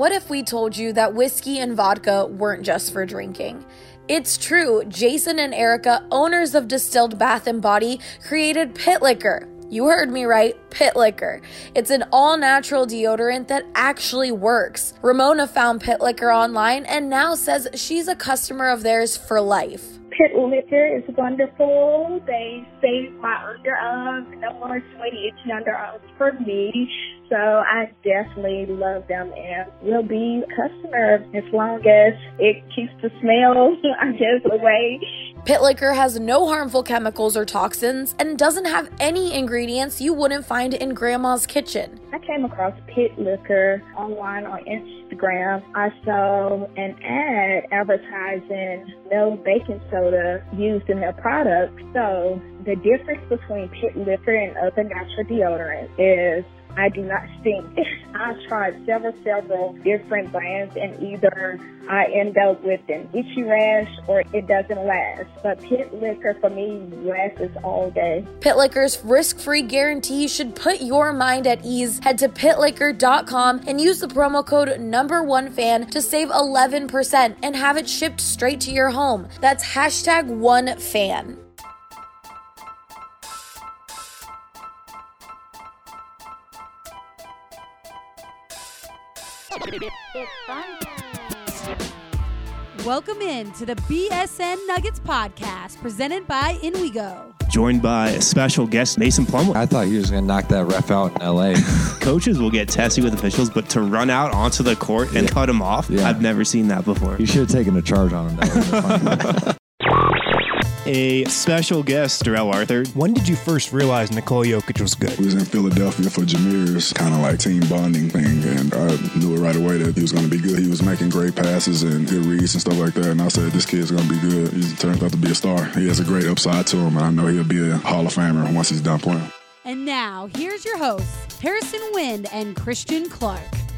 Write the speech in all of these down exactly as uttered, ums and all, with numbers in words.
What if we told you that whiskey and vodka weren't just for drinking? It's true. Jason and Erica, owners of Distilled Bath and Body, created Pit Liquor. You heard me right, Pit Liquor. It's an all-natural deodorant that actually works. Ramona found Pit Liquor online and now says she's a customer of theirs for life. Pit Liquor is wonderful. They save my underarms. No more sweaty, itchy underarms for me. So I definitely love them and will be a customer as long as it keeps the smell, I guess, away. Pit Liquor has no harmful chemicals or toxins and doesn't have any ingredients you wouldn't find in Grandma's kitchen. I came across Pit Liquor online on Instagram. I saw an ad advertising no baking soda used in their product. So the difference between Pit Liquor and other natural deodorants is I do not stink. I've tried several, several different brands, and either I end up with an itchy rash or it doesn't last. But Pit Liquor, for me, lasts all day. Pit Liquor's risk-free guarantee should put your mind at ease. Head to pit liquor dot com and use the promo code number one fan to save eleven percent and have it shipped straight to your home. That's hashtag one fan. It's fun time. Welcome in to the B S N Nuggets podcast presented by In We Go. Joined by a special guest, Mason Plumlee. I thought he was going to knock that ref out in L A. Coaches will get testy with officials, but to run out onto the court and yeah. cut him off, yeah. I've never seen that before. You should have taken a charge on him. That A special guest, Darrell Arthur. When did you first realize Nikola Jokic was good? We was in Philadelphia for Jameer's kind of like team bonding thing, and I knew it right away that he was going to be good. He was making great passes and good reads and stuff like that, and I said, this kid's going to be good. He turned out to be a star. He has a great upside to him, and I know he'll be a Hall of Famer once he's done playing. And now, here's your hosts, Harrison Wind and Christian Clark.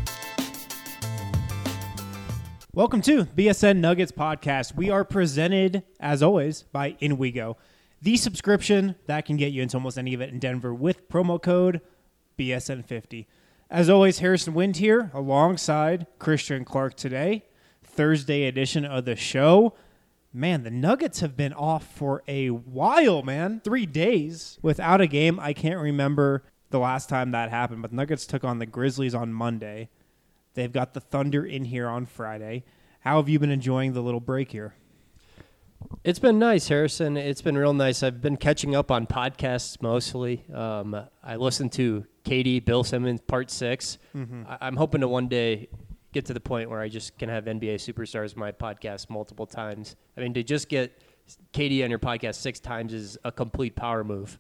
Welcome to B S N Nuggets podcast. We are presented, as always, by In We Go, the subscription that can get you into almost any event in Denver with promo code B S N fifty. As always, Harrison Wind here alongside Christian Clark today, Thursday edition of the show. Man, the Nuggets have been off for a while, man. Three days without a game. I can't remember the last time that happened, but the Nuggets took on the Grizzlies on Monday. They've got the Thunder in here on Friday. How have you been enjoying the little break here? It's been nice, Harrison. It's been real nice. I've been catching up on podcasts mostly. Um, I listened to Katie, Bill Simmons, Part six. Mm-hmm. I- I'm hoping to one day get to the point where I just can have N B A Superstars on my podcast multiple times. I mean, to just get Katie on your podcast six times is a complete power move.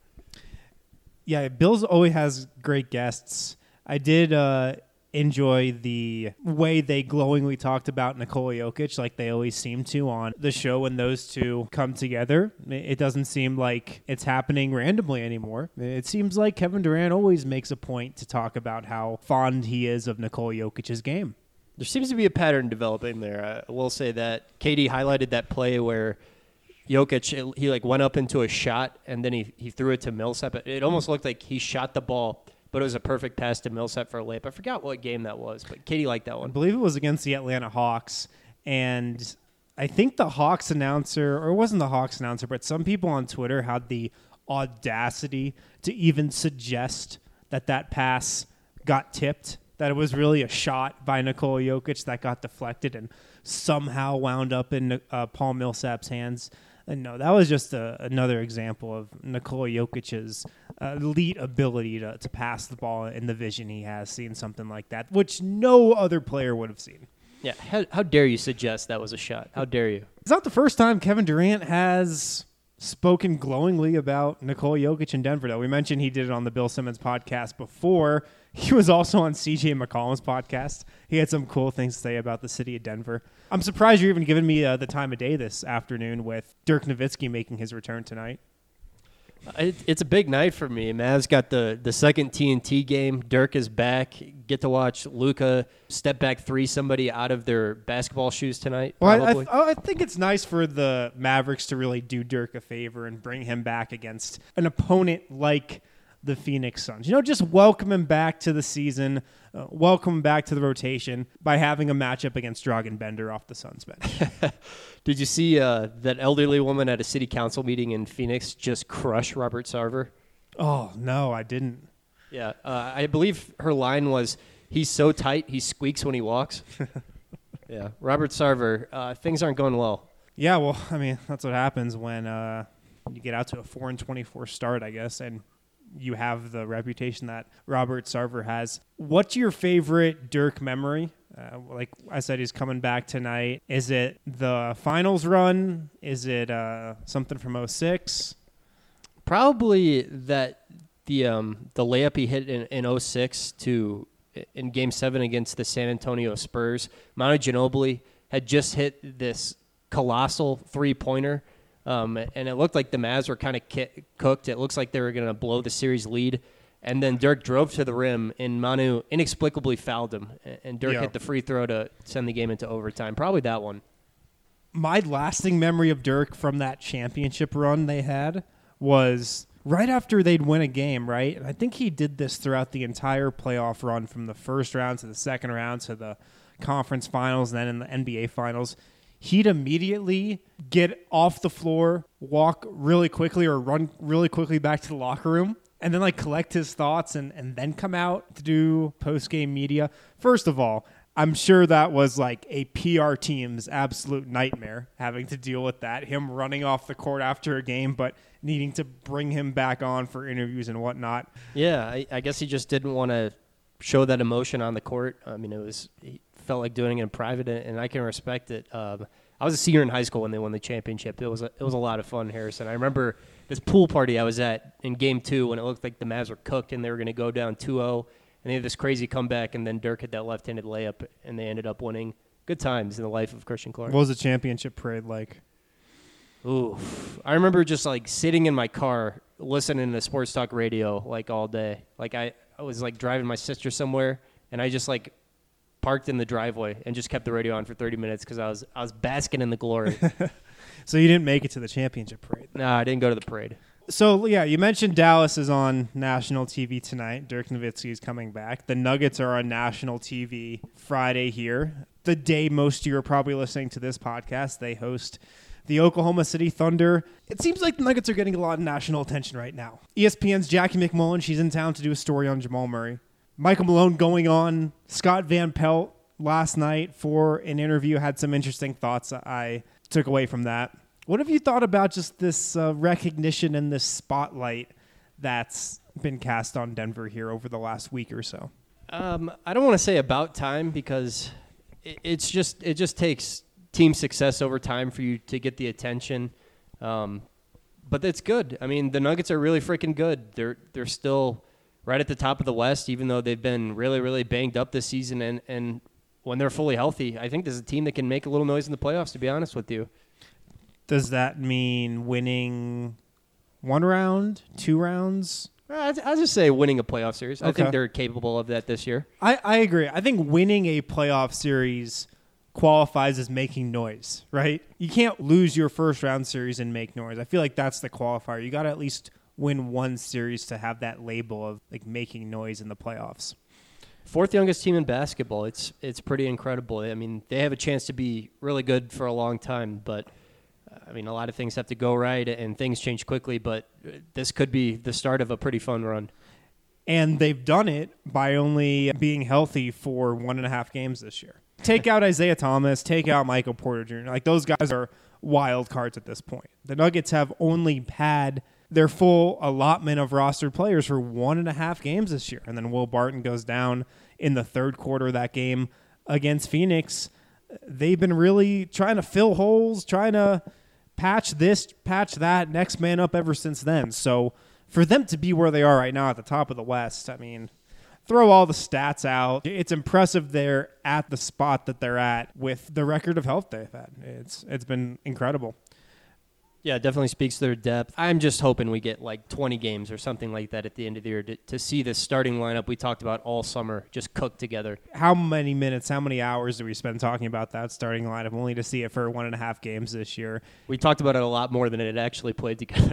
Yeah, Bill's always has great guests. I did... Uh, enjoy the way they glowingly talked about Nikola Jokic like they always seem to on the show when those two come together. It doesn't seem like it's happening randomly anymore. It seems like Kevin Durant always makes a point to talk about how fond he is of Nikola Jokic's game. There seems to be a pattern developing there. I will say that Katie highlighted that play where Jokic, he like went up into a shot and then he, he threw it to Millsap. It almost looked like he shot the ball, but it was a perfect pass to Millsap for a layup. I forgot what game that was, but Katie liked that one. I believe it was against the Atlanta Hawks, and I think the Hawks announcer, or it wasn't the Hawks announcer, but some people on Twitter had the audacity to even suggest that that pass got tipped, that it was really a shot by Nikola Jokic that got deflected and somehow wound up in uh, Paul Millsap's hands. And no, that was just a, another example of Nikola Jokic's uh, elite ability to, to pass the ball in the vision he has, seeing something like that, which no other player would have seen. Yeah, how, how dare you suggest that was a shot? How dare you? It's not the first time Kevin Durant has spoken glowingly about Nikola Jokic in Denver, though. We mentioned he did it on the Bill Simmons podcast before. He was also on C J McCollum's podcast. He had some cool things to say about the city of Denver. I'm surprised you're even giving me uh, the time of day this afternoon with Dirk Nowitzki making his return tonight. It, it's a big night for me. Mavs got the, the second T N T game. Dirk is back. Get to watch Luka step back three somebody out of their basketball shoes tonight. Well, I, I, I think it's nice for the Mavericks to really do Dirk a favor and bring him back against an opponent like the Phoenix Suns. You know, just welcome him back to the season, uh, welcome him back to the rotation by having a matchup against Dragan Bender off the Suns bench. Did you see uh, that elderly woman at a city council meeting in Phoenix just crush Robert Sarver? Oh, no, I didn't. Yeah, uh, I believe her line was, he's so tight, he squeaks when he walks. Yeah, Robert Sarver, uh, things aren't going well. Yeah, well, I mean, that's what happens when uh, you get out to a four and twenty-four start, I guess, and you have the reputation that Robert Sarver has. What's your favorite Dirk memory? Uh, like I said, he's coming back tonight. Is it the finals run? Is it uh, something from oh six? Probably that the um, the layup he hit in, in oh six to in Game seven against the San Antonio Spurs. Manu Ginobili had just hit this colossal three-pointer, um, and it looked like the Mavs were kind of ki- cooked. It looks like they were going to blow the series lead. And then Dirk drove to the rim, and Manu inexplicably fouled him. And Dirk yeah. hit the free throw to send the game into overtime. Probably that one. My lasting memory of Dirk from that championship run they had was right after they'd win a game, right? And I think he did this throughout the entire playoff run from the first round to the second round to the conference finals and then in the N B A finals. He'd immediately get off the floor, walk really quickly or run really quickly back to the locker room, and then like collect his thoughts and, and then come out to do post-game media. First of all, I'm sure that was like a P R team's absolute nightmare having to deal with that, him running off the court after a game, but needing to bring him back on for interviews and whatnot. Yeah, I, I guess he just didn't want to show that emotion on the court. I mean, it was he felt like doing it in private, and I can respect it. Um, I was a senior in high school when they won the championship. It was a, it was a lot of fun, Harrison. I remember this pool party I was at in game two when it looked like the Mavs were cooked and they were going to go down two oh, and they had this crazy comeback, and then Dirk had that left-handed layup, and they ended up winning. Good times in the life of Christian Clark. What was the championship parade like? Ooh, I remember just like sitting in my car listening to sports talk radio like all day. Like I, I was like driving my sister somewhere, and I just like parked in the driveway and just kept the radio on for thirty minutes because I was I was basking in the glory. So you didn't make it to the championship parade? No, I didn't go to the parade. So, yeah, you mentioned Dallas is on national T V tonight. Dirk Nowitzki is coming back. The Nuggets are on national T V Friday here. The day most of you are probably listening to this podcast, they host the Oklahoma City Thunder. It seems like the Nuggets are getting a lot of national attention right now. E S P N's Jackie McMullen, she's in town to do a story on Jamal Murray. Michael Malone going on Scott Van Pelt last night for an interview, had some interesting thoughts I took away from that. What have you thought about just this uh, recognition and this spotlight that's been cast on Denver here over the last week or so? Um, I don't want to say about time because it, it's just it just takes team success over time for you to get the attention. Um, but it's good. I mean, the Nuggets are really freaking good. They're they're still right at the top of the West, even though they've been really, really banged up this season. And, and when they're fully healthy, I think there's a team that can make a little noise in the playoffs, to be honest with you. Does that mean winning one round, two rounds? I'd, I'd just say winning a playoff series. I Okay. think they're capable of that this year. I, I agree. I think winning a playoff series qualifies as making noise, right? You can't lose your first round series and make noise. I feel like that's the qualifier. You got to at least win one series to have that label of like making noise in the playoffs. Fourth youngest team in basketball. It's it's pretty incredible. I mean, they have a chance to be really good for a long time, but I mean, a lot of things have to go right and things change quickly, but this could be the start of a pretty fun run. And they've done it by only being healthy for one and a half games this year. Take out Isaiah Thomas, take out Michael Porter Junior Like, those guys are wild cards at this point. The Nuggets have only had their full allotment of rostered players for one and a half games this year. And then Will Barton goes down in the third quarter of that game against Phoenix. They've been really trying to fill holes, trying to patch this, patch that, next man up ever since then. So for them to be where they are right now at the top of the West, I mean, throw all the stats out. It's impressive they're at the spot that they're at with the record of health they've had. It's It's been incredible. Yeah, it definitely speaks to their depth. I'm just hoping we get like twenty games or something like that at the end of the year to, to see this starting lineup we talked about all summer just cook together. How many minutes, how many hours do we spend talking about that starting lineup only to see it for one and a half games this year? We talked about it a lot more than it actually played together.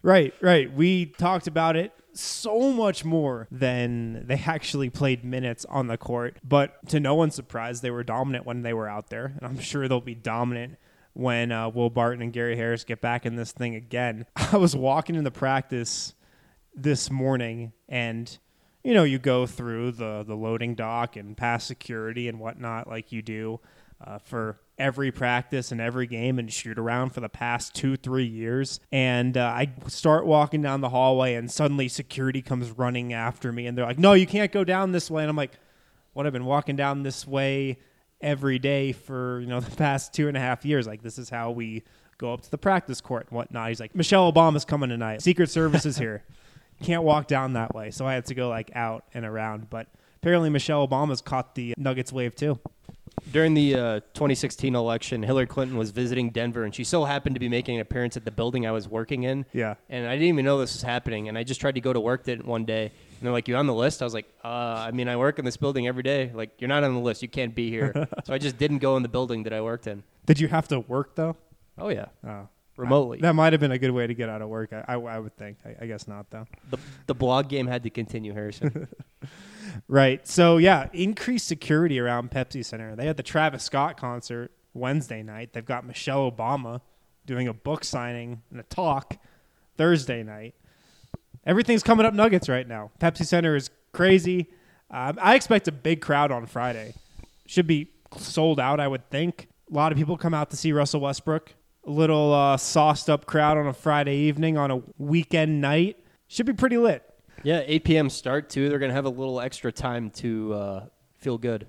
Right, right. We talked about it so much more than they actually played minutes on the court. But to no one's surprise, they were dominant when they were out there. And I'm sure they'll be dominant when uh, Will Barton and Gary Harris get back in this thing again. I was walking in the practice this morning, and, you know, you go through the, the loading dock and pass security and whatnot like you do uh, for every practice and every game and shoot around for the past two, three years. And uh, I start walking down the hallway, and suddenly security comes running after me, and they're like, no, you can't go down this way. And I'm like, what, I've been walking down this way every day for, you know, the past two and a half years. Like, this is how we go up to the practice court and whatnot. He's like, Michelle Obama's coming tonight. Secret Service is here. Can't walk down that way. So I had to go like out and around. But apparently Michelle Obama's caught the Nuggets wave too. During the uh, twenty sixteen election, Hillary Clinton was visiting Denver, and she so happened to be making an appearance at the building I was working in. Yeah. And I didn't even know this was happening, and I just tried to go to work that one day, and they're like, you on the list? I was like, uh, I mean, I work in this building every day. Like, you're not on the list. You can't be here. So I just didn't go in the building that I worked in. Did you have to work, though? Oh, yeah. Oh. Remotely. I, that might have been a good way to get out of work. I, I, I would think. I, I guess not, though. The, the blog game had to continue, Harrison. Right. So, yeah, increased security around Pepsi Center. They had the Travis Scott concert Wednesday night. They've got Michelle Obama doing a book signing and a talk Thursday night. Everything's coming up Nuggets right now. Pepsi Center is crazy. Um, I expect a big crowd on Friday. Should be sold out, I would think. A lot of people come out to see Russell Westbrook. A little uh, sauced up crowd on a Friday evening on a weekend night. Should be pretty lit. Yeah, eight p.m. start, too. They're going to have a little extra time to uh, feel good.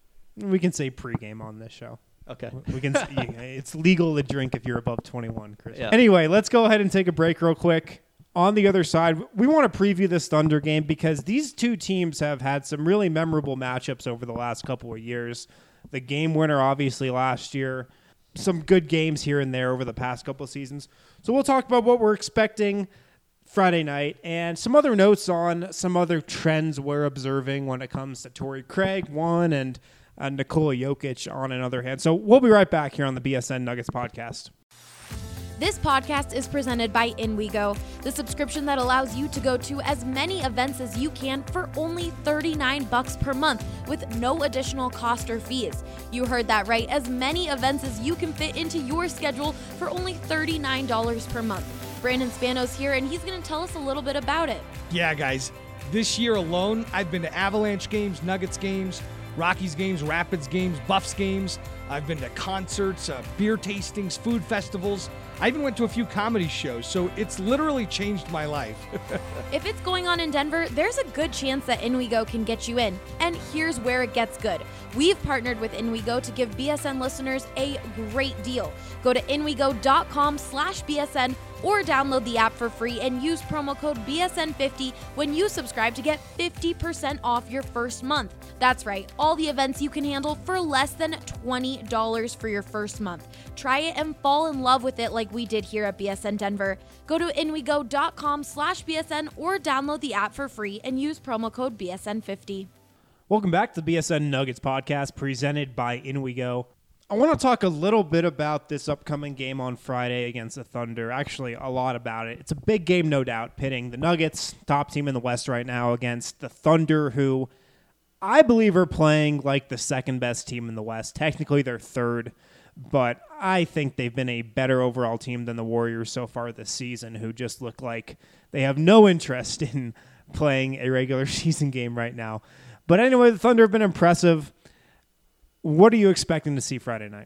We can say pregame on this show. Okay. We can. It's legal to drink if you're above twenty-one, Chris. Yeah. Anyway, let's go ahead and take a break real quick. On the other side, we want to preview this Thunder game because these two teams have had some really memorable matchups over the last couple of years. The game winner, obviously, last year. Some good games here and there over the past couple of seasons. So we'll talk about what we're expecting Friday night and some other notes on some other trends we're observing when it comes to Torrey Craig, one, and uh, Nikola Jokic on another hand. So we'll be right back here on the B S N Nuggets podcast. This podcast is presented by InWeGo, the subscription that allows you to go to as many events as you can for only thirty-nine bucks per month with no additional cost or fees. You heard that right, as many events as you can fit into your schedule for only thirty-nine dollars per month. Brandon Spanos here, and he's going to tell us a little bit about it. Yeah, guys, this year alone, I've been to Avalanche games, Nuggets games, Rockies games, Rapids games, Buffs games. I've been to concerts, uh, beer tastings, food festivals. I even went to a few comedy shows, so it's literally changed my life. If it's going on in Denver, there's a good chance that InWeGo can get you in. And here's where it gets good. We've partnered with InWeGo to give B S N listeners a great deal. Go to InWeGo.com slash BSN or download the app for free and use promo code B S N fifty when you subscribe to get fifty percent off your first month. That's right, all the events you can handle for less than twenty dollars for your first month. Try it and fall in love with it like we did here at B S N Denver. Go to InWeGo.com slash BSN or download the app for free and use promo code B S N fifty. Welcome back to the B S N Nuggets podcast presented by InWeGo. I want to talk a little bit about this upcoming game on Friday against the Thunder. Actually, a lot about it. It's a big game, no doubt, pitting the Nuggets, top team in the West right now, against the Thunder, who I believe are playing like the second best team in the West. Technically, they're third, but I think they've been a better overall team than the Warriors so far this season, who just look like they have no interest in playing a regular season game right now. But anyway, the Thunder have been impressive. What are you expecting to see Friday night?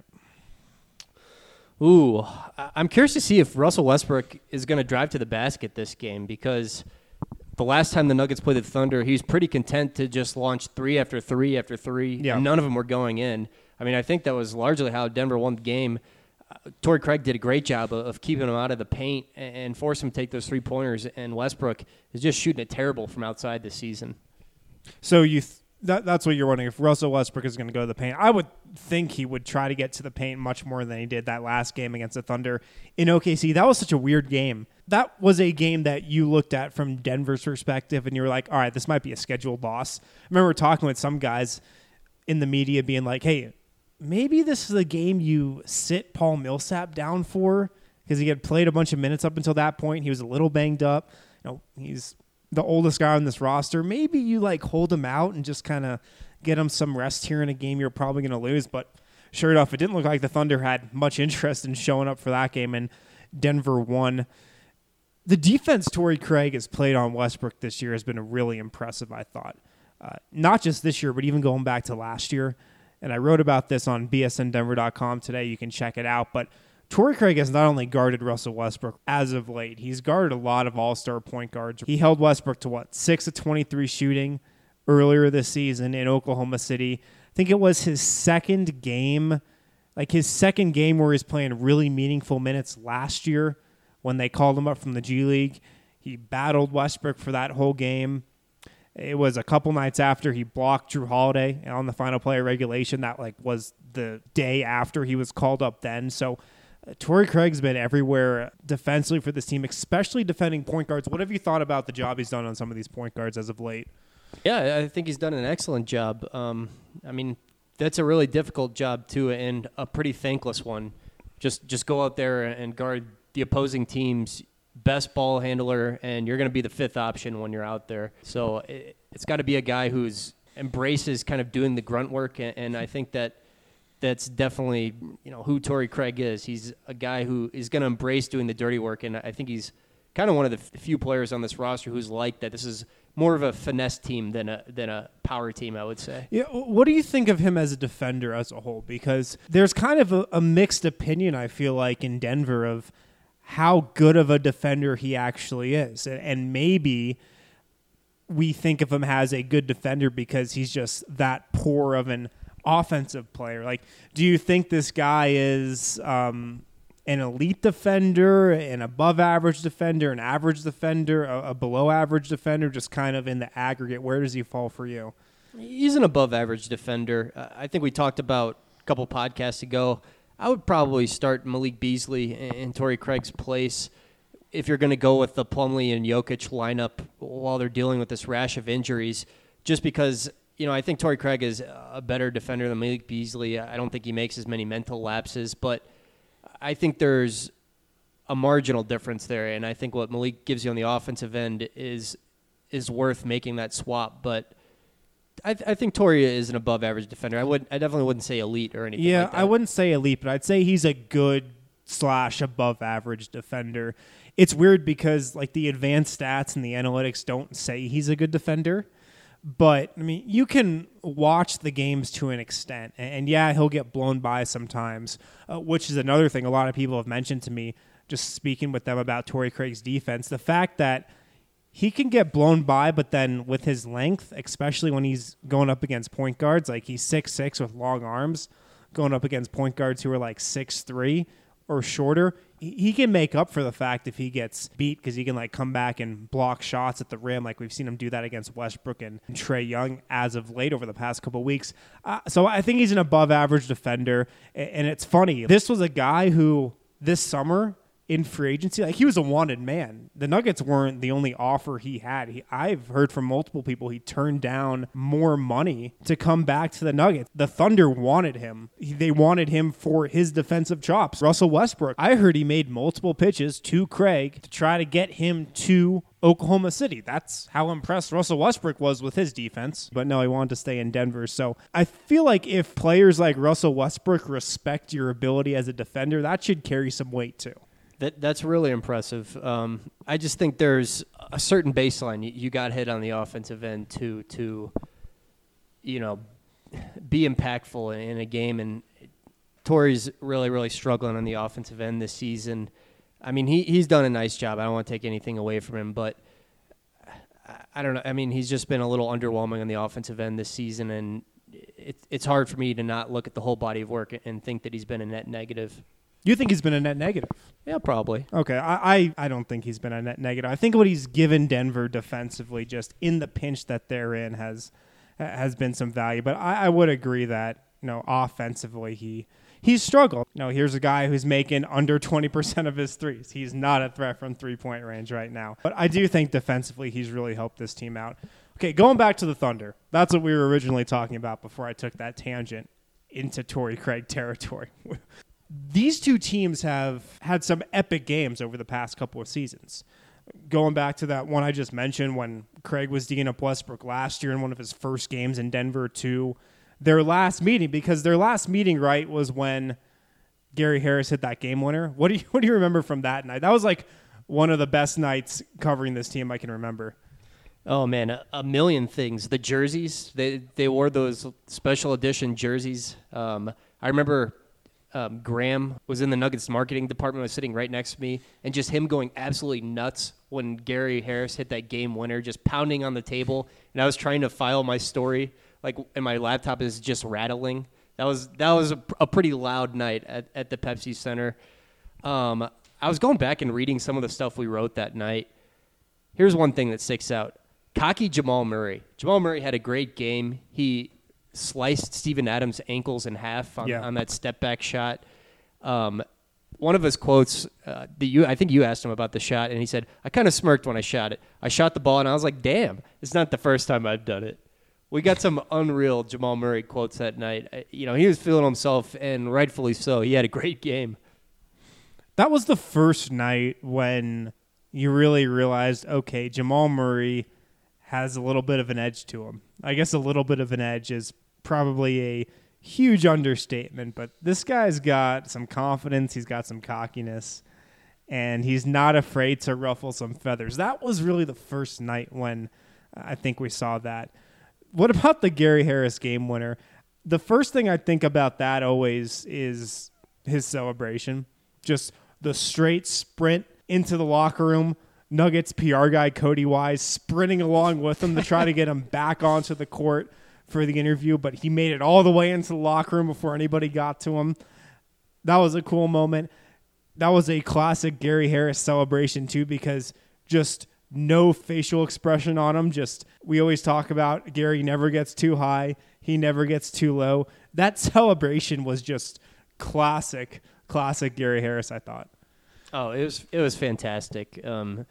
Ooh, I'm curious to see if Russell Westbrook is going to drive to the basket this game, because the last time the Nuggets played the Thunder, he was pretty content to just launch three after three after three, yeah. and none of them were going in. I mean, I think that was largely how Denver won the game. Uh, Torrey Craig did a great job of, of keeping him out of the paint and, and forced him to take those three-pointers, and Westbrook is just shooting it terrible from outside this season. So you th- that, that's what you're wondering, if Russell Westbrook is going to go to the paint. I would think he would try to get to the paint much more than he did that last game against the Thunder in O K C. That was such a weird game. That was a game that you looked at from Denver's perspective, and you were like, all right, this might be a scheduled loss. I remember talking with some guys in the media being like, hey, maybe this is a game you sit Paul Millsap down for because he had played a bunch of minutes up until that point. He was a little banged up. You know, he's the oldest guy on this roster. Maybe you like hold him out and just kind of get him some rest here in a game you're probably going to lose. But sure enough, it didn't look like the Thunder had much interest in showing up for that game, and Denver won. The defense Torrey Craig has played on Westbrook this year has been really impressive, I thought. Uh, not just this year, but even going back to last year. And I wrote about this on B S N Denver dot com today. You can check it out. But Torrey Craig has not only guarded Russell Westbrook as of late, he's guarded a lot of all-star point guards. He held Westbrook to, what, six of twenty-three shooting earlier this season in Oklahoma City. I think it was his second game, like his second game where he's playing really meaningful minutes last year when they called him up from the G League. He battled Westbrook for that whole game. It was a couple nights after he blocked Drew Holiday on the final play of regulation. That like was the day after he was called up then. So uh, Torrey Craig's been everywhere defensively for this team, especially defending point guards. What have you thought about the job he's done on some of these point guards as of late? Yeah, I think he's done an excellent job. Um, I mean, that's a really difficult job too, and a pretty thankless one. Just just go out there and guard the opposing team's best ball handler, and you're going to be the fifth option when you're out there. So it, it's got to be a guy who's embraces kind of doing the grunt work, and, and I think that that's definitely, you know, who Torrey Craig is. He's a guy who is going to embrace doing the dirty work, and I think he's kind of one of the few players on this roster who's like that. This is more of a finesse team than a than a power team, I would say. Yeah, what do you think of him as a defender as a whole? Because there's kind of a, a mixed opinion, I feel like, in Denver of how good of a defender he actually is. And maybe we think of him as a good defender because he's just that poor of an offensive player. Like, do you think this guy is um, an elite defender, an above average defender, an average defender, a, a below average defender, just kind of in the aggregate? Where does he fall for you? He's an above average defender. Uh, I think we talked about a couple podcasts ago. I would probably start Malik Beasley in Torrey Craig's place if you're going to go with the Plumlee and Jokic lineup while they're dealing with this rash of injuries, just because, you know, I think Torrey Craig is a better defender than Malik Beasley. I don't think he makes as many mental lapses, but I think there's a marginal difference there, and I think what Malik gives you on the offensive end is is worth making that swap, but I, th- I think Torrey is an above-average defender. I would, I definitely wouldn't say elite or anything yeah, like that. I wouldn't say elite, but I'd say he's a good slash above-average defender. It's weird because like the advanced stats and the analytics don't say he's a good defender, but I mean you can watch the games to an extent, and, and yeah, he'll get blown by sometimes, uh, which is another thing a lot of people have mentioned to me just speaking with them about Torrey Craig's defense. The fact that he can get blown by, but then with his length, especially when he's going up against point guards, like he's six six with long arms, going up against point guards who are like six three or shorter, he can make up for the fact if he gets beat because he can like come back and block shots at the rim. Like we've seen him do that against Westbrook and Trae Young as of late over the past couple of weeks. Uh, so I think he's an above average defender. And it's funny. This was a guy who this summer in free agency, like he was a wanted man. The Nuggets weren't the only offer he had. He, I've heard from multiple people he turned down more money to come back to the Nuggets. The Thunder wanted him. He, they wanted him for his defensive chops. Russell Westbrook, I heard he made multiple pitches to Craig to try to get him to Oklahoma City. That's how impressed Russell Westbrook was with his defense. But no, he wanted to stay in Denver. So I feel like if players like Russell Westbrook respect your ability as a defender, that should carry some weight too. That that's really impressive. Um, I just think there's a certain baseline you, you got hit on the offensive end to to, you know, be impactful in a game. And Torrey's really really struggling on the offensive end this season. I mean, he he's done a nice job. I don't want to take anything away from him, but I, I don't know. I mean, he's just been a little underwhelming on the offensive end this season, and it, it's hard for me to not look at the whole body of work and think that he's been a net negative. You think he's been a net negative? Yeah, probably. Okay, I, I, I don't think he's been a net negative. I think what he's given Denver defensively, just in the pinch that they're in, has has been some value. But I, I would agree that, you know, offensively he he's struggled. You know, here's a guy who's making under twenty percent of his threes. He's not a threat from three-point range right now. But I do think defensively he's really helped this team out. Okay, going back to the Thunder. That's what we were originally talking about before I took that tangent into Torrey Craig territory. these two teams have had some epic games over the past couple of seasons. Going back to that one I just mentioned when Craig was D'ing up Westbrook last year in one of his first games in Denver to their last meeting, because their last meeting, right, was when Gary Harris hit that game winner. What do you what do you remember from that night? That was like one of the best nights covering this team I can remember. Oh man, a, a million things. The jerseys, they they wore those special edition jerseys. Um, I remember um, Graham was in the Nuggets marketing department, was sitting right next to me, and just him going absolutely nuts when Gary Harris hit that game winner, just pounding on the table. And I was trying to file my story, like, and my laptop is just rattling. That was that was a, a pretty loud night at, at the Pepsi Center. Um, I was going back and reading some of the stuff we wrote that night. Here's one thing that sticks out. Cocky Jamal Murray. Jamal Murray had a great game. He sliced Steven Adams' ankles in half on, yeah. on that step-back shot. Um, one of his quotes, uh, the, you, I think you asked him about the shot, and he said, I kind of smirked when I shot it. I shot the ball, and I was like, damn, it's not the first time I've done it. We got some unreal Jamal Murray quotes that night. Uh, you know, he was feeling himself, and rightfully so. He had a great game. That was the first night when you really realized, okay, Jamal Murray has a little bit of an edge to him. I guess a little bit of an edge is probably a huge understatement, but this guy's got some confidence, he's got some cockiness, and he's not afraid to ruffle some feathers. That was really the first night when I think we saw that. What about the Gary Harris game winner? The first thing I think about that always is his celebration. Just the straight sprint into the locker room, Nuggets P R guy Cody Wise sprinting along with him to try to get him back onto the court for the interview, but he made it all the way into the locker room before anybody got to him. That was a cool moment. That was a classic Gary Harris celebration too, because just no facial expression on him. Just, we always talk about Gary never gets too high, he never gets too low. That celebration was just classic, classic Gary Harris, I thought. Oh, it was it was fantastic. Um,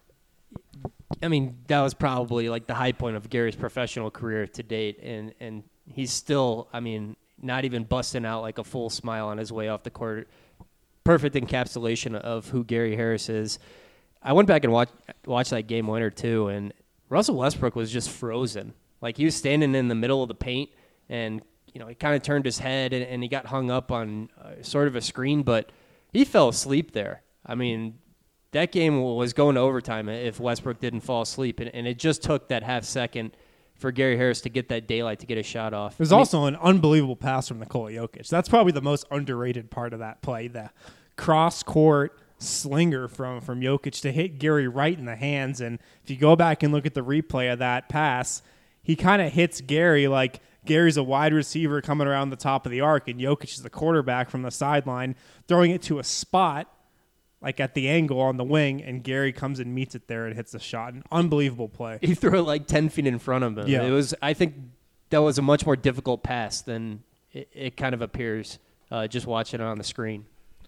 I mean, that was probably like the high point of Gary's professional career to date, and and he's still, I mean, not even busting out like a full smile on his way off the court. Perfect encapsulation of who Gary Harris is. I went back and watched watched that game winner too, and Russell Westbrook was just frozen. Like, he was standing in the middle of the paint, and you know, he kind of turned his head and, and he got hung up on uh, sort of a screen, but he fell asleep there. I mean, that game was going to overtime if Westbrook didn't fall asleep, and, and it just took that half second for Gary Harris to get that daylight to get a shot off. There's I mean, also an unbelievable pass from Nikola Jokic. That's probably the most underrated part of that play, the cross-court slinger from, from Jokic to hit Gary right in the hands. And if you go back and look at the replay of that pass, he kind of hits Gary like Gary's a wide receiver coming around the top of the arc, and Jokic is the quarterback from the sideline, throwing it to a spot like at the angle on the wing, and Gary comes and meets it there and hits the shot. An unbelievable play. He threw it like ten feet in front of him. Yeah. It was, I think that was a much more difficult pass than it, it kind of appears uh, just watching it on the screen.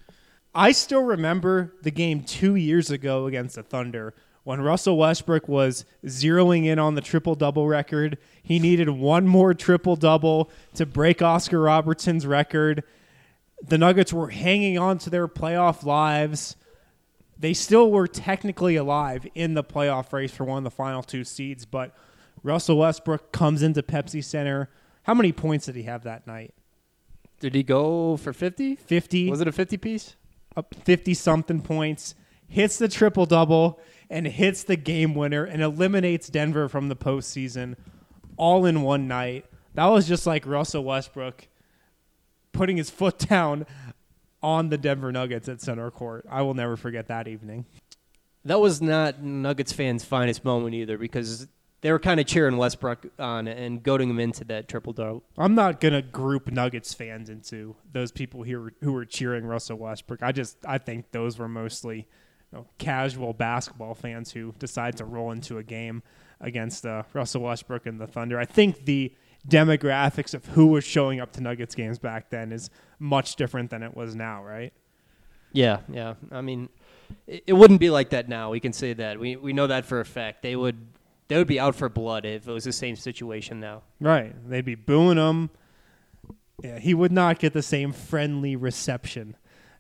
I still remember the game two years ago against the Thunder when Russell Westbrook was zeroing in on the triple-double record. He needed one more triple-double to break Oscar Robertson's record. The Nuggets were hanging on to their playoff lives. They still were technically alive in the playoff race for one of the final two seeds, but Russell Westbrook comes into Pepsi Center. How many points did he have that night? Did he go for fifty? fifty. Was it a fifty-piece? Up fifty-something points, hits the triple-double, and hits the game winner, and eliminates Denver from the postseason all in one night. That was just like Russell Westbrook putting his foot down on the Denver Nuggets at center court. I will never forget that evening. That was not Nuggets fans' finest moment either, because they were kind of cheering Westbrook on and goading him into that triple-double. I'm not going to group Nuggets fans into those people who were, who were cheering Russell Westbrook. I just I think those were mostly, you know, casual basketball fans who decide to roll into a game against uh, Russell Westbrook and the Thunder. I think the demographics of who was showing up to Nuggets games back then is much different than it was now, right? Yeah, yeah. I mean, it, it wouldn't be like that now. We can say that. We we know that for a fact. They would they would be out for blood if it was the same situation now. Right. They'd be booing him. Yeah, he would not get the same friendly reception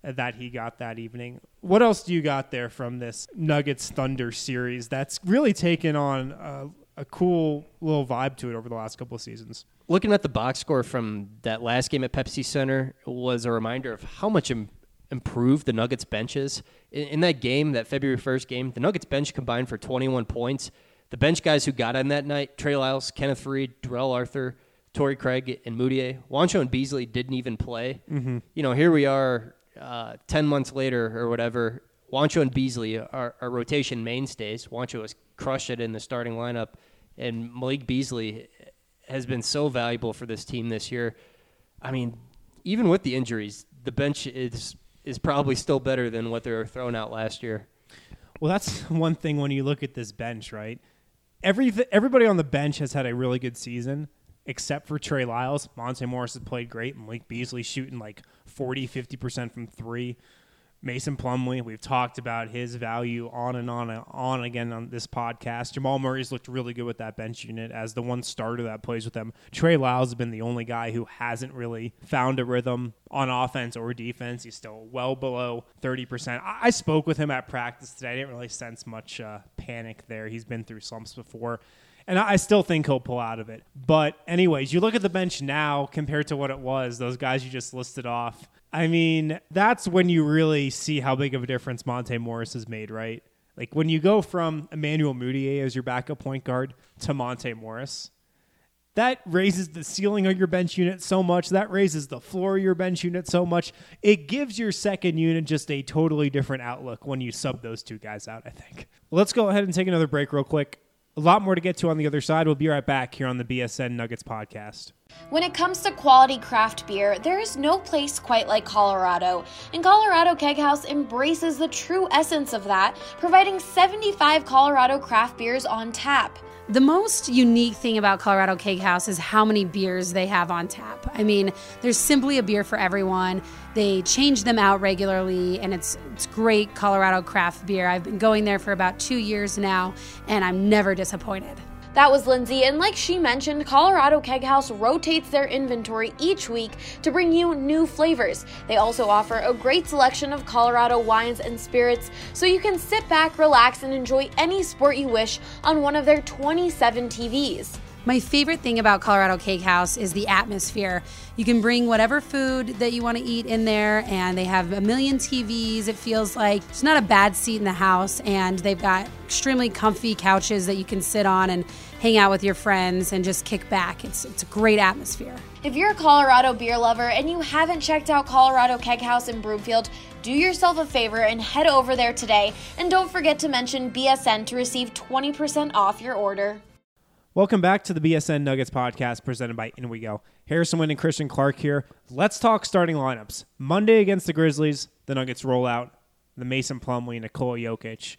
that he got that evening. What else do you got there from this Nuggets Thunder series that's really taken on a, a cool little vibe to it over the last couple of seasons? Looking at the box score from that last game at Pepsi Center was a reminder of how much im- improved the Nuggets bench is. In, in that game, that February first game, the Nuggets bench combined for twenty-one points. The bench guys who got on that night, Trey Lyles, Kenneth Reed, Darrell Arthur, Torrey Craig, and Moutier. Juancho and Beasley didn't even play. Mm-hmm. You know, here we are uh, ten months later or whatever. Juancho and Beasley are, are rotation mainstays. Juancho has crushed it in the starting lineup, and Malik Beasley has been so valuable for this team this year. I mean, even with the injuries, the bench is is probably still better than what they were throwing out last year. Well, that's one thing when you look at this bench, right? Every everybody on the bench has had a really good season, except for Trey Lyles. Monte Morris has played great. Malik Beasley shooting like forty, fifty percent from three. Mason Plumlee, we've talked about his value on and on and on again on this podcast. Jamal Murray's looked really good with that bench unit as the one starter that plays with them. Trey Lyles has been the only guy who hasn't really found a rhythm on offense or defense. He's still well below thirty percent. I, I spoke with him at practice today. I didn't really sense much uh, panic there. He's been through slumps before. And I still think he'll pull out of it. But anyways, you look at the bench now compared to what it was, those guys you just listed off. I mean, that's when you really see how big of a difference Monte Morris has made, right? Like when you go from Emmanuel Moutier as your backup point guard to Monte Morris, that raises the ceiling of your bench unit so much. That raises the floor of your bench unit so much. It gives your second unit just a totally different outlook when you sub those two guys out, I think. Let's go ahead and take another break real quick. A lot more to get to on the other side. We'll be right back here on the B S N Nuggets podcast. When it comes to quality craft beer, there is no place quite like Colorado. And Colorado Keg House embraces the true essence of that, providing seventy-five Colorado craft beers on tap. The most unique thing about Colorado Keg House is how many beers they have on tap. I mean, there's simply a beer for everyone. They change them out regularly, and it's it's great Colorado craft beer. I've been going there for about two years now, and I'm never disappointed. That was Lindsay, and like she mentioned, Colorado Keg House rotates their inventory each week to bring you new flavors. They also offer a great selection of Colorado wines and spirits, so you can sit back, relax, and enjoy any sport you wish on one of their twenty-seven T Vs. My favorite thing about Colorado Keg House is the atmosphere. You can bring whatever food that you want to eat in there, and they have a million T Vs. It feels like it's not a bad seat in the house, and they've got extremely comfy couches that you can sit on and hang out with your friends and just kick back. It's it's a great atmosphere. If you're a Colorado beer lover and you haven't checked out Colorado Keg House in Broomfield, do yourself a favor and head over there today. And don't forget to mention B S N to receive twenty percent off your order. Welcome back to the B S N Nuggets podcast presented by In We Go. Harrison Wind and Christian Clark here. Let's talk starting lineups. Monday against the Grizzlies, the Nuggets roll out the Mason Plumlee, Nikola Jokic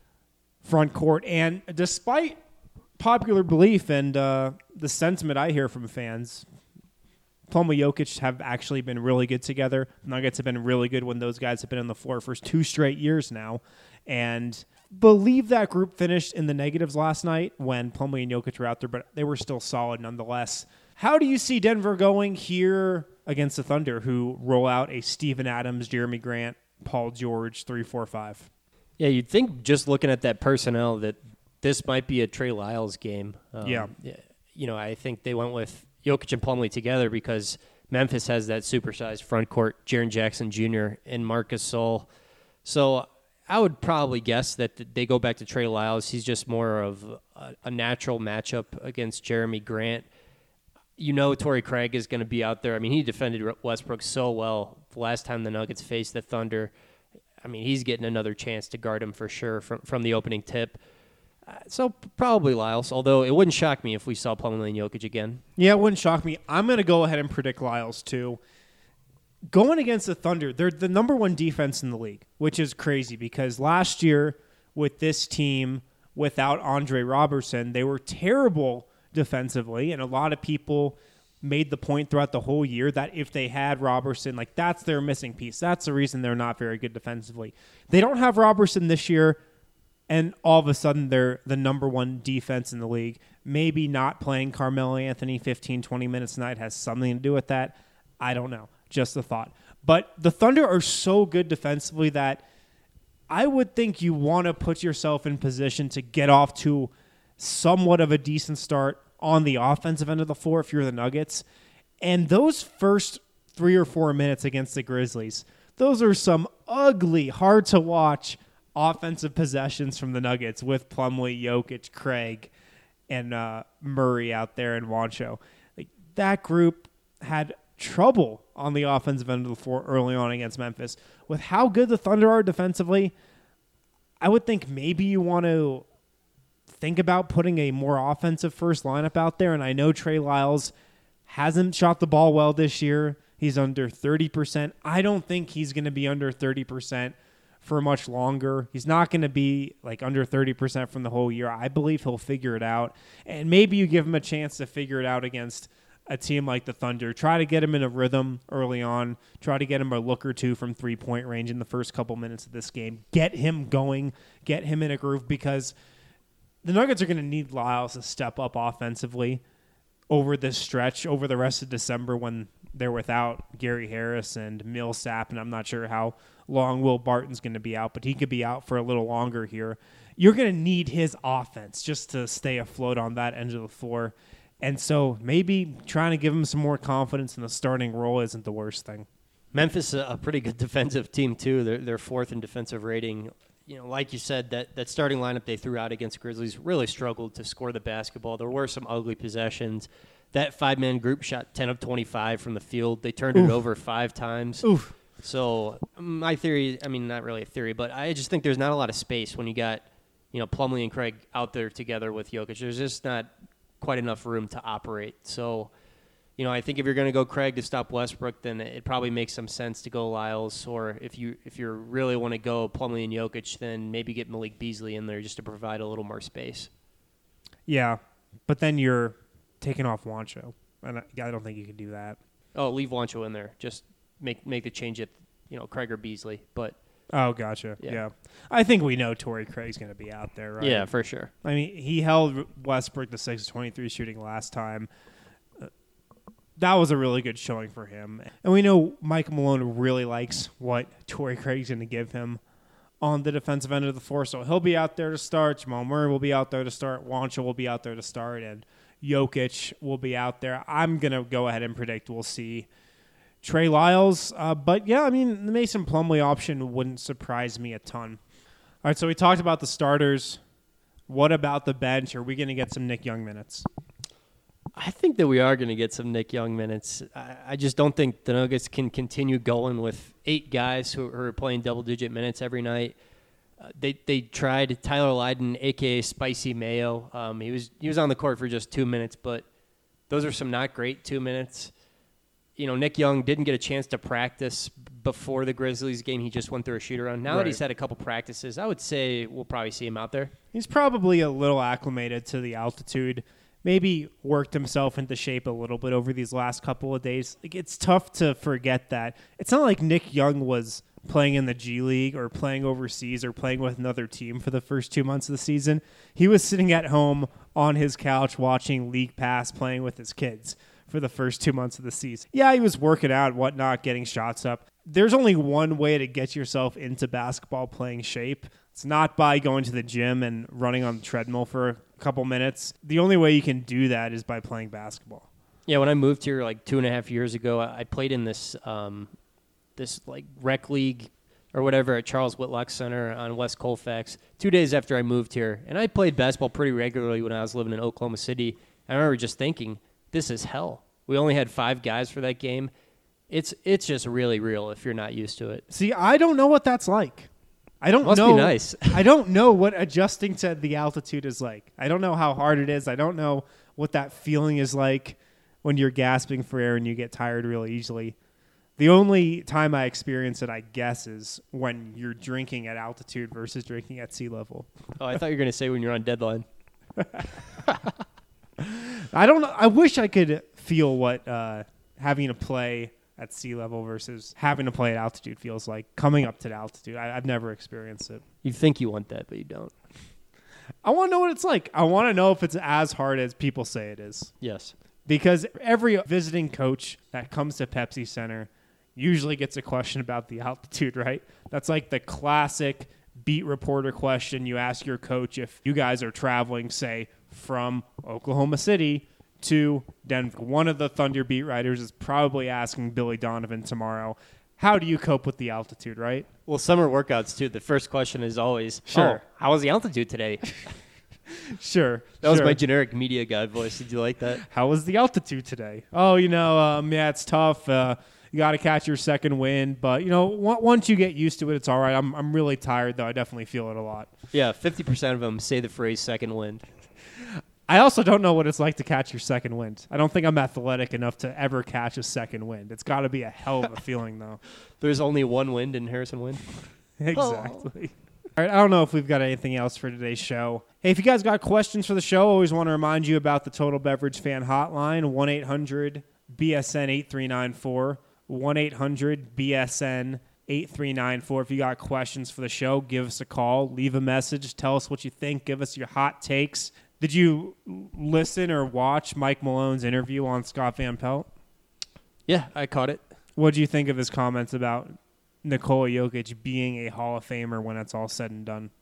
front court. And despite popular belief and uh, the sentiment I hear from fans, Plumlee Jokic have actually been really good together. The Nuggets have been really good when those guys have been on the floor for two straight years now. And believe that group finished in the negatives last night when Plumlee and Jokic were out there, but they were still solid nonetheless. How do you see Denver going here against the Thunder, who roll out a Steven Adams, Jeremy Grant, Paul George, three four five? Yeah, you'd think just looking at that personnel that this might be a Trey Lyles game. Um, yeah. You know, I think they went with Jokic and Plumlee together because Memphis has that supersized front court, Jaren Jackson Junior and Marcus Sol. So I would probably guess that they go back to Trey Lyles. He's just more of a, a natural matchup against Jeremy Grant. You know Torrey Craig is going to be out there. I mean, he defended Westbrook so well the last time the Nuggets faced the Thunder. I mean, he's getting another chance to guard him for sure from, from the opening tip. Uh, so probably Lyles, although it wouldn't shock me if we saw Plumlee and Jokic again. Yeah, it wouldn't shock me. I'm going to go ahead and predict Lyles too. Going against the Thunder, they're the number one defense in the league, which is crazy because last year with this team, without Andre Robertson, they were terrible defensively, and a lot of people made the point throughout the whole year that if they had Robertson, like that's their missing piece. That's the reason they're not very good defensively. They don't have Robertson this year, and all of a sudden they're the number one defense in the league. Maybe not playing Carmelo Anthony fifteen, twenty minutes a night has something to do with that. I don't know. Just a thought. But the Thunder are so good defensively that I would think you want to put yourself in position to get off to somewhat of a decent start on the offensive end of the floor if you're the Nuggets. And those first three or four minutes against the Grizzlies, those are some ugly, hard-to-watch offensive possessions from the Nuggets with Plumlee, Jokic, Craig, and uh, Murray out there and Juancho. Like, that group had trouble on the offensive end of the floor early on against Memphis. With how good the Thunder are defensively, I would think maybe you want to think about putting a more offensive first lineup out there. And I know Trey Lyles hasn't shot the ball well this year. He's under thirty percent. I don't think he's going to be under thirty percent for much longer. He's not going to be like under thirty percent from the whole year. I believe he'll figure it out. And maybe you give him a chance to figure it out against a team like the Thunder. Try to get him in a rhythm early on. Try to get him a look or two from three-point range in the first couple minutes of this game. Get him going. Get him in a groove, because the Nuggets are going to need Lyles to step up offensively over this stretch, over the rest of December when they're without Gary Harris and Millsap, and I'm not sure how long Will Barton's going to be out, but he could be out for a little longer here. You're going to need his offense just to stay afloat on that end of the floor. And so maybe trying to give him some more confidence in the starting role isn't the worst thing. Memphis is a pretty good defensive team, too. They're, they're fourth in defensive rating. You know, like you said, that, that starting lineup they threw out against Grizzlies really struggled to score the basketball. There were some ugly possessions. That five-man group shot ten of twenty-five from the field. They turned Oof. it over five times. Oof. So my theory, I mean, not really a theory, but I just think there's not a lot of space when you got, you know, Plumlee and Craig out there together with Jokic. There's just not quite enough room to operate. So, you know, I think if you're going to go Craig to stop Westbrook, then it probably makes some sense to go Lyles. Or if you if you really want to go Plumlee and Jokic, then maybe get Malik Beasley in there just to provide a little more space. Yeah, but then you're taking off Juancho, and I, I don't think you can do that. Oh, leave Juancho in there. Just make make the change at, you know, Craig or Beasley. But oh, gotcha. Yeah. yeah. I think we know Torrey Craig's going to be out there, right? Yeah, for sure. I mean, he held Westbrook to six of twenty-three shooting last time. Uh, that was a really good showing for him. And we know Mike Malone really likes what Torrey Craig's going to give him on the defensive end of the floor. So he'll be out there to start. Jamal Murray will be out there to start. Juancho will be out there to start. And Jokic will be out there. I'm going to go ahead and predict we'll see Trey Lyles. Uh, but, yeah, I mean, the Mason Plumlee option wouldn't surprise me a ton. All right, so we talked about the starters. What about the bench? Are we going to get some Nick Young minutes? I think that we are going to get some Nick Young minutes. I, I just don't think the Nuggets can continue going with eight guys who, who are playing double-digit minutes every night. Uh, they they tried Tyler Lydon, a k a. Spicy Mayo. Um, he was he was on the court for just two minutes, but those are some not great two minutes. You know, Nick Young didn't get a chance to practice before the Grizzlies game. He just went through a shoot-around. Now right. that he's had a couple practices, I would say we'll probably see him out there. He's probably a little acclimated to the altitude. Maybe worked himself into shape a little bit over these last couple of days. Like, it's tough to forget that. It's not like Nick Young was playing in the G League or playing overseas or playing with another team for the first two months of the season. He was sitting at home on his couch watching League Pass, playing with his kids for the first two months of the season. Yeah, he was working out, whatnot, getting shots up. There's only one way to get yourself into basketball playing shape. It's not by going to the gym and running on the treadmill for a couple minutes. The only way you can do that is by playing basketball. Yeah, when I moved here like two and a half years ago, I played in this um, this like rec league or whatever at Charles Whitlock Center on West Colfax two days after I moved here. And I played basketball pretty regularly when I was living in Oklahoma City. I remember just thinking, this is hell. We only had five guys for that game. It's it's just really real if you're not used to it. See, I don't know what that's like. I don't Must know. be nice. I don't know what adjusting to the altitude is like. I don't know how hard it is. I don't know what that feeling is like when you're gasping for air and you get tired really easily. The only time I experience it, I guess, is when you're drinking at altitude versus drinking at sea level. Oh, I thought you were going to say when you're on deadline. I don't know. I wish I could feel what uh, having to play at sea level versus having to play at altitude feels like. Coming up to the altitude, I, I've never experienced it. You think you want that, but you don't. I want to know what it's like. I want to know if it's as hard as people say it is. Yes. Because every visiting coach that comes to Pepsi Center usually gets a question about the altitude, right? That's like the classic beat reporter question you ask your coach if you guys are traveling, say, from Oklahoma City to Denver. One of the Thunder beat writers is probably asking Billy Donovan tomorrow, how do you cope with the altitude, right? Well, summer workouts, too. The first question is always, Sure. oh, how was the altitude today? Sure. That was sure. my generic media guy voice. Did you like that? How was the altitude today? Oh, you know, um, yeah, it's tough. Uh, you got to catch your second wind. But, you know, w- once you get used to it, it's all right. I'm, I'm really tired, though. I definitely feel it a lot. Yeah, fifty percent of them say the phrase second wind. I also don't know what it's like to catch your second wind. I don't think I'm athletic enough to ever catch a second wind. It's got to be a hell of a feeling, though. There's only one wind in Harrison Wind. Exactly. All right, I don't know if we've got anything else for today's show. Hey, if you guys got questions for the show, I always want to remind you about the Total Beverage Fan Hotline, one eight hundred B S N eight three nine four, one eight hundred B S N eight three nine four. If you got questions for the show, give us a call, leave a message, tell us what you think, give us your hot takes. Did you listen or watch Mike Malone's interview on Scott Van Pelt? Yeah, I caught it. What did you think of his comments about Nikola Jokic being a Hall of Famer when it's all said and done?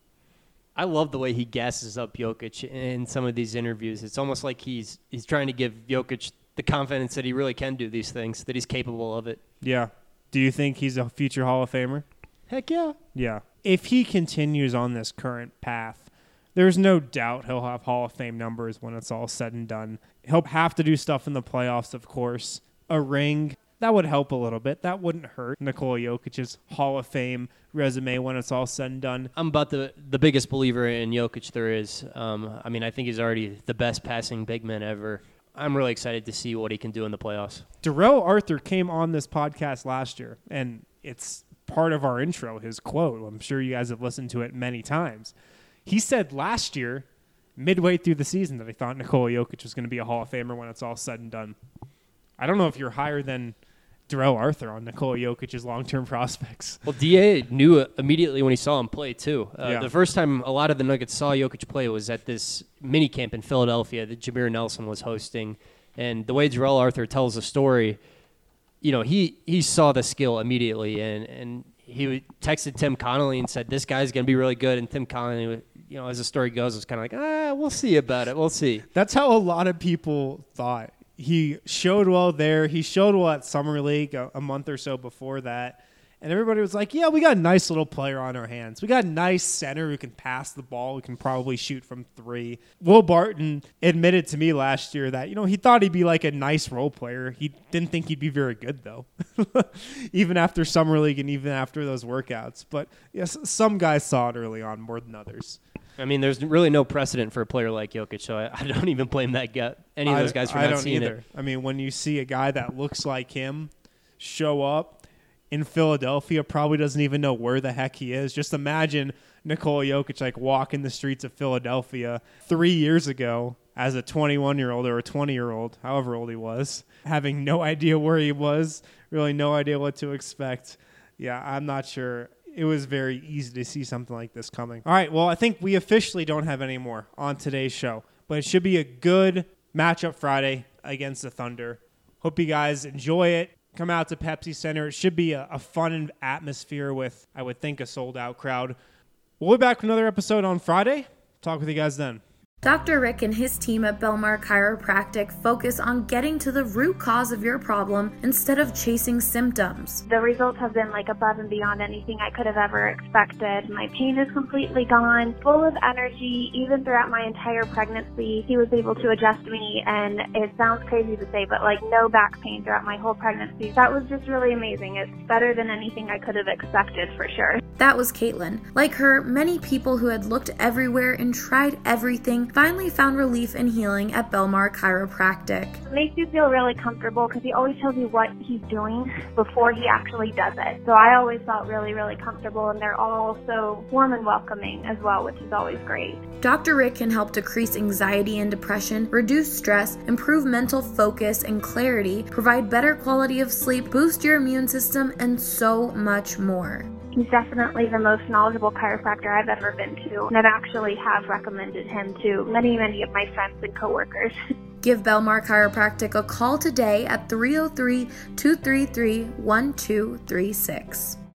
I love the way he gasses up Jokic in some of these interviews. It's almost like he's he's trying to give Jokic the confidence that he really can do these things, that he's capable of it. Yeah. Do you think he's a future Hall of Famer? Heck yeah. Yeah. If he continues on this current path, there's no doubt he'll have Hall of Fame numbers when it's all said and done. He'll have to do stuff in the playoffs, of course. A ring, that would help a little bit. That wouldn't hurt Nikola Jokic's Hall of Fame resume when it's all said and done. I'm about the the biggest believer in Jokic there is. Um, I mean, I think he's already the best passing big man ever. I'm really excited to see what he can do in the playoffs. Darrell Arthur came on this podcast last year, and it's part of our intro, his quote. I'm sure you guys have listened to it many times. He said last year, midway through the season, that he thought Nikola Jokic was going to be a Hall of Famer when it's all said and done. I don't know if you're higher than Darrell Arthur on Nikola Jokic's long-term prospects. Well, D A knew immediately when he saw him play, too. Uh, Yeah. The first time a lot of the Nuggets saw Jokic play was at this mini camp in Philadelphia that Jameer Nelson was hosting. And the way Darrell Arthur tells the story, you know, he, he saw the skill immediately. And, and he texted Tim Connolly and said, this guy's going to be really good. And Tim Connolly, you know, as the story goes, was kind of like, ah, we'll see about it. We'll see. That's how a lot of people thought. He showed well there. He showed well at Summer League a, a month or so before that. And everybody was like, yeah, we got a nice little player on our hands. We got a nice center who can pass the ball, who can probably shoot from three. Will Barton admitted to me last year that, you know, he thought he'd be like a nice role player. He didn't think he'd be very good, though, even after Summer League and even after those workouts. But yes, some guys saw it early on more than others. I mean, there's really no precedent for a player like Jokic, so I, I don't even blame that guy, any of those guys for I not don't seeing either. it. I mean, when you see a guy that looks like him show up in Philadelphia, probably doesn't even know where the heck he is. Just imagine Nikola Jokic like walking the streets of Philadelphia three years ago as a twenty-one-year-old or a twenty-year-old, however old he was, having no idea where he was, really no idea what to expect. Yeah, I'm not sure. It was very easy to see something like this coming. All right, well, I think we officially don't have any more on today's show, but it should be a good matchup Friday against the Thunder. Hope you guys enjoy it. Come out to Pepsi Center. It should be a, a fun atmosphere with, I would think, a sold-out crowd. We'll be back with another episode on Friday. Talk with you guys then. Doctor Rick and his team at Belmar Chiropractic focus on getting to the root cause of your problem instead of chasing symptoms. The results have been like above and beyond anything I could have ever expected. My pain is completely gone, full of energy, even throughout my entire pregnancy. He was able to adjust me, and it sounds crazy to say, but like no back pain throughout my whole pregnancy. That was just really amazing. It's better than anything I could have expected for sure. That was Caitlin. Like her, many people who had looked everywhere and tried everything finally found relief and healing at Belmar Chiropractic. It makes you feel really comfortable because he always tells you what he's doing before he actually does it. So I always felt really, really comfortable, and they're all so warm and welcoming as well, which is always great. Doctor Rick can help decrease anxiety and depression, reduce stress, improve mental focus and clarity, provide better quality of sleep, boost your immune system, and so much more. He's definitely the most knowledgeable chiropractor I've ever been to, and I've actually have recommended him to many, many of my friends and coworkers. Give Belmar Chiropractic a call today at three oh three, two three three, one two three six.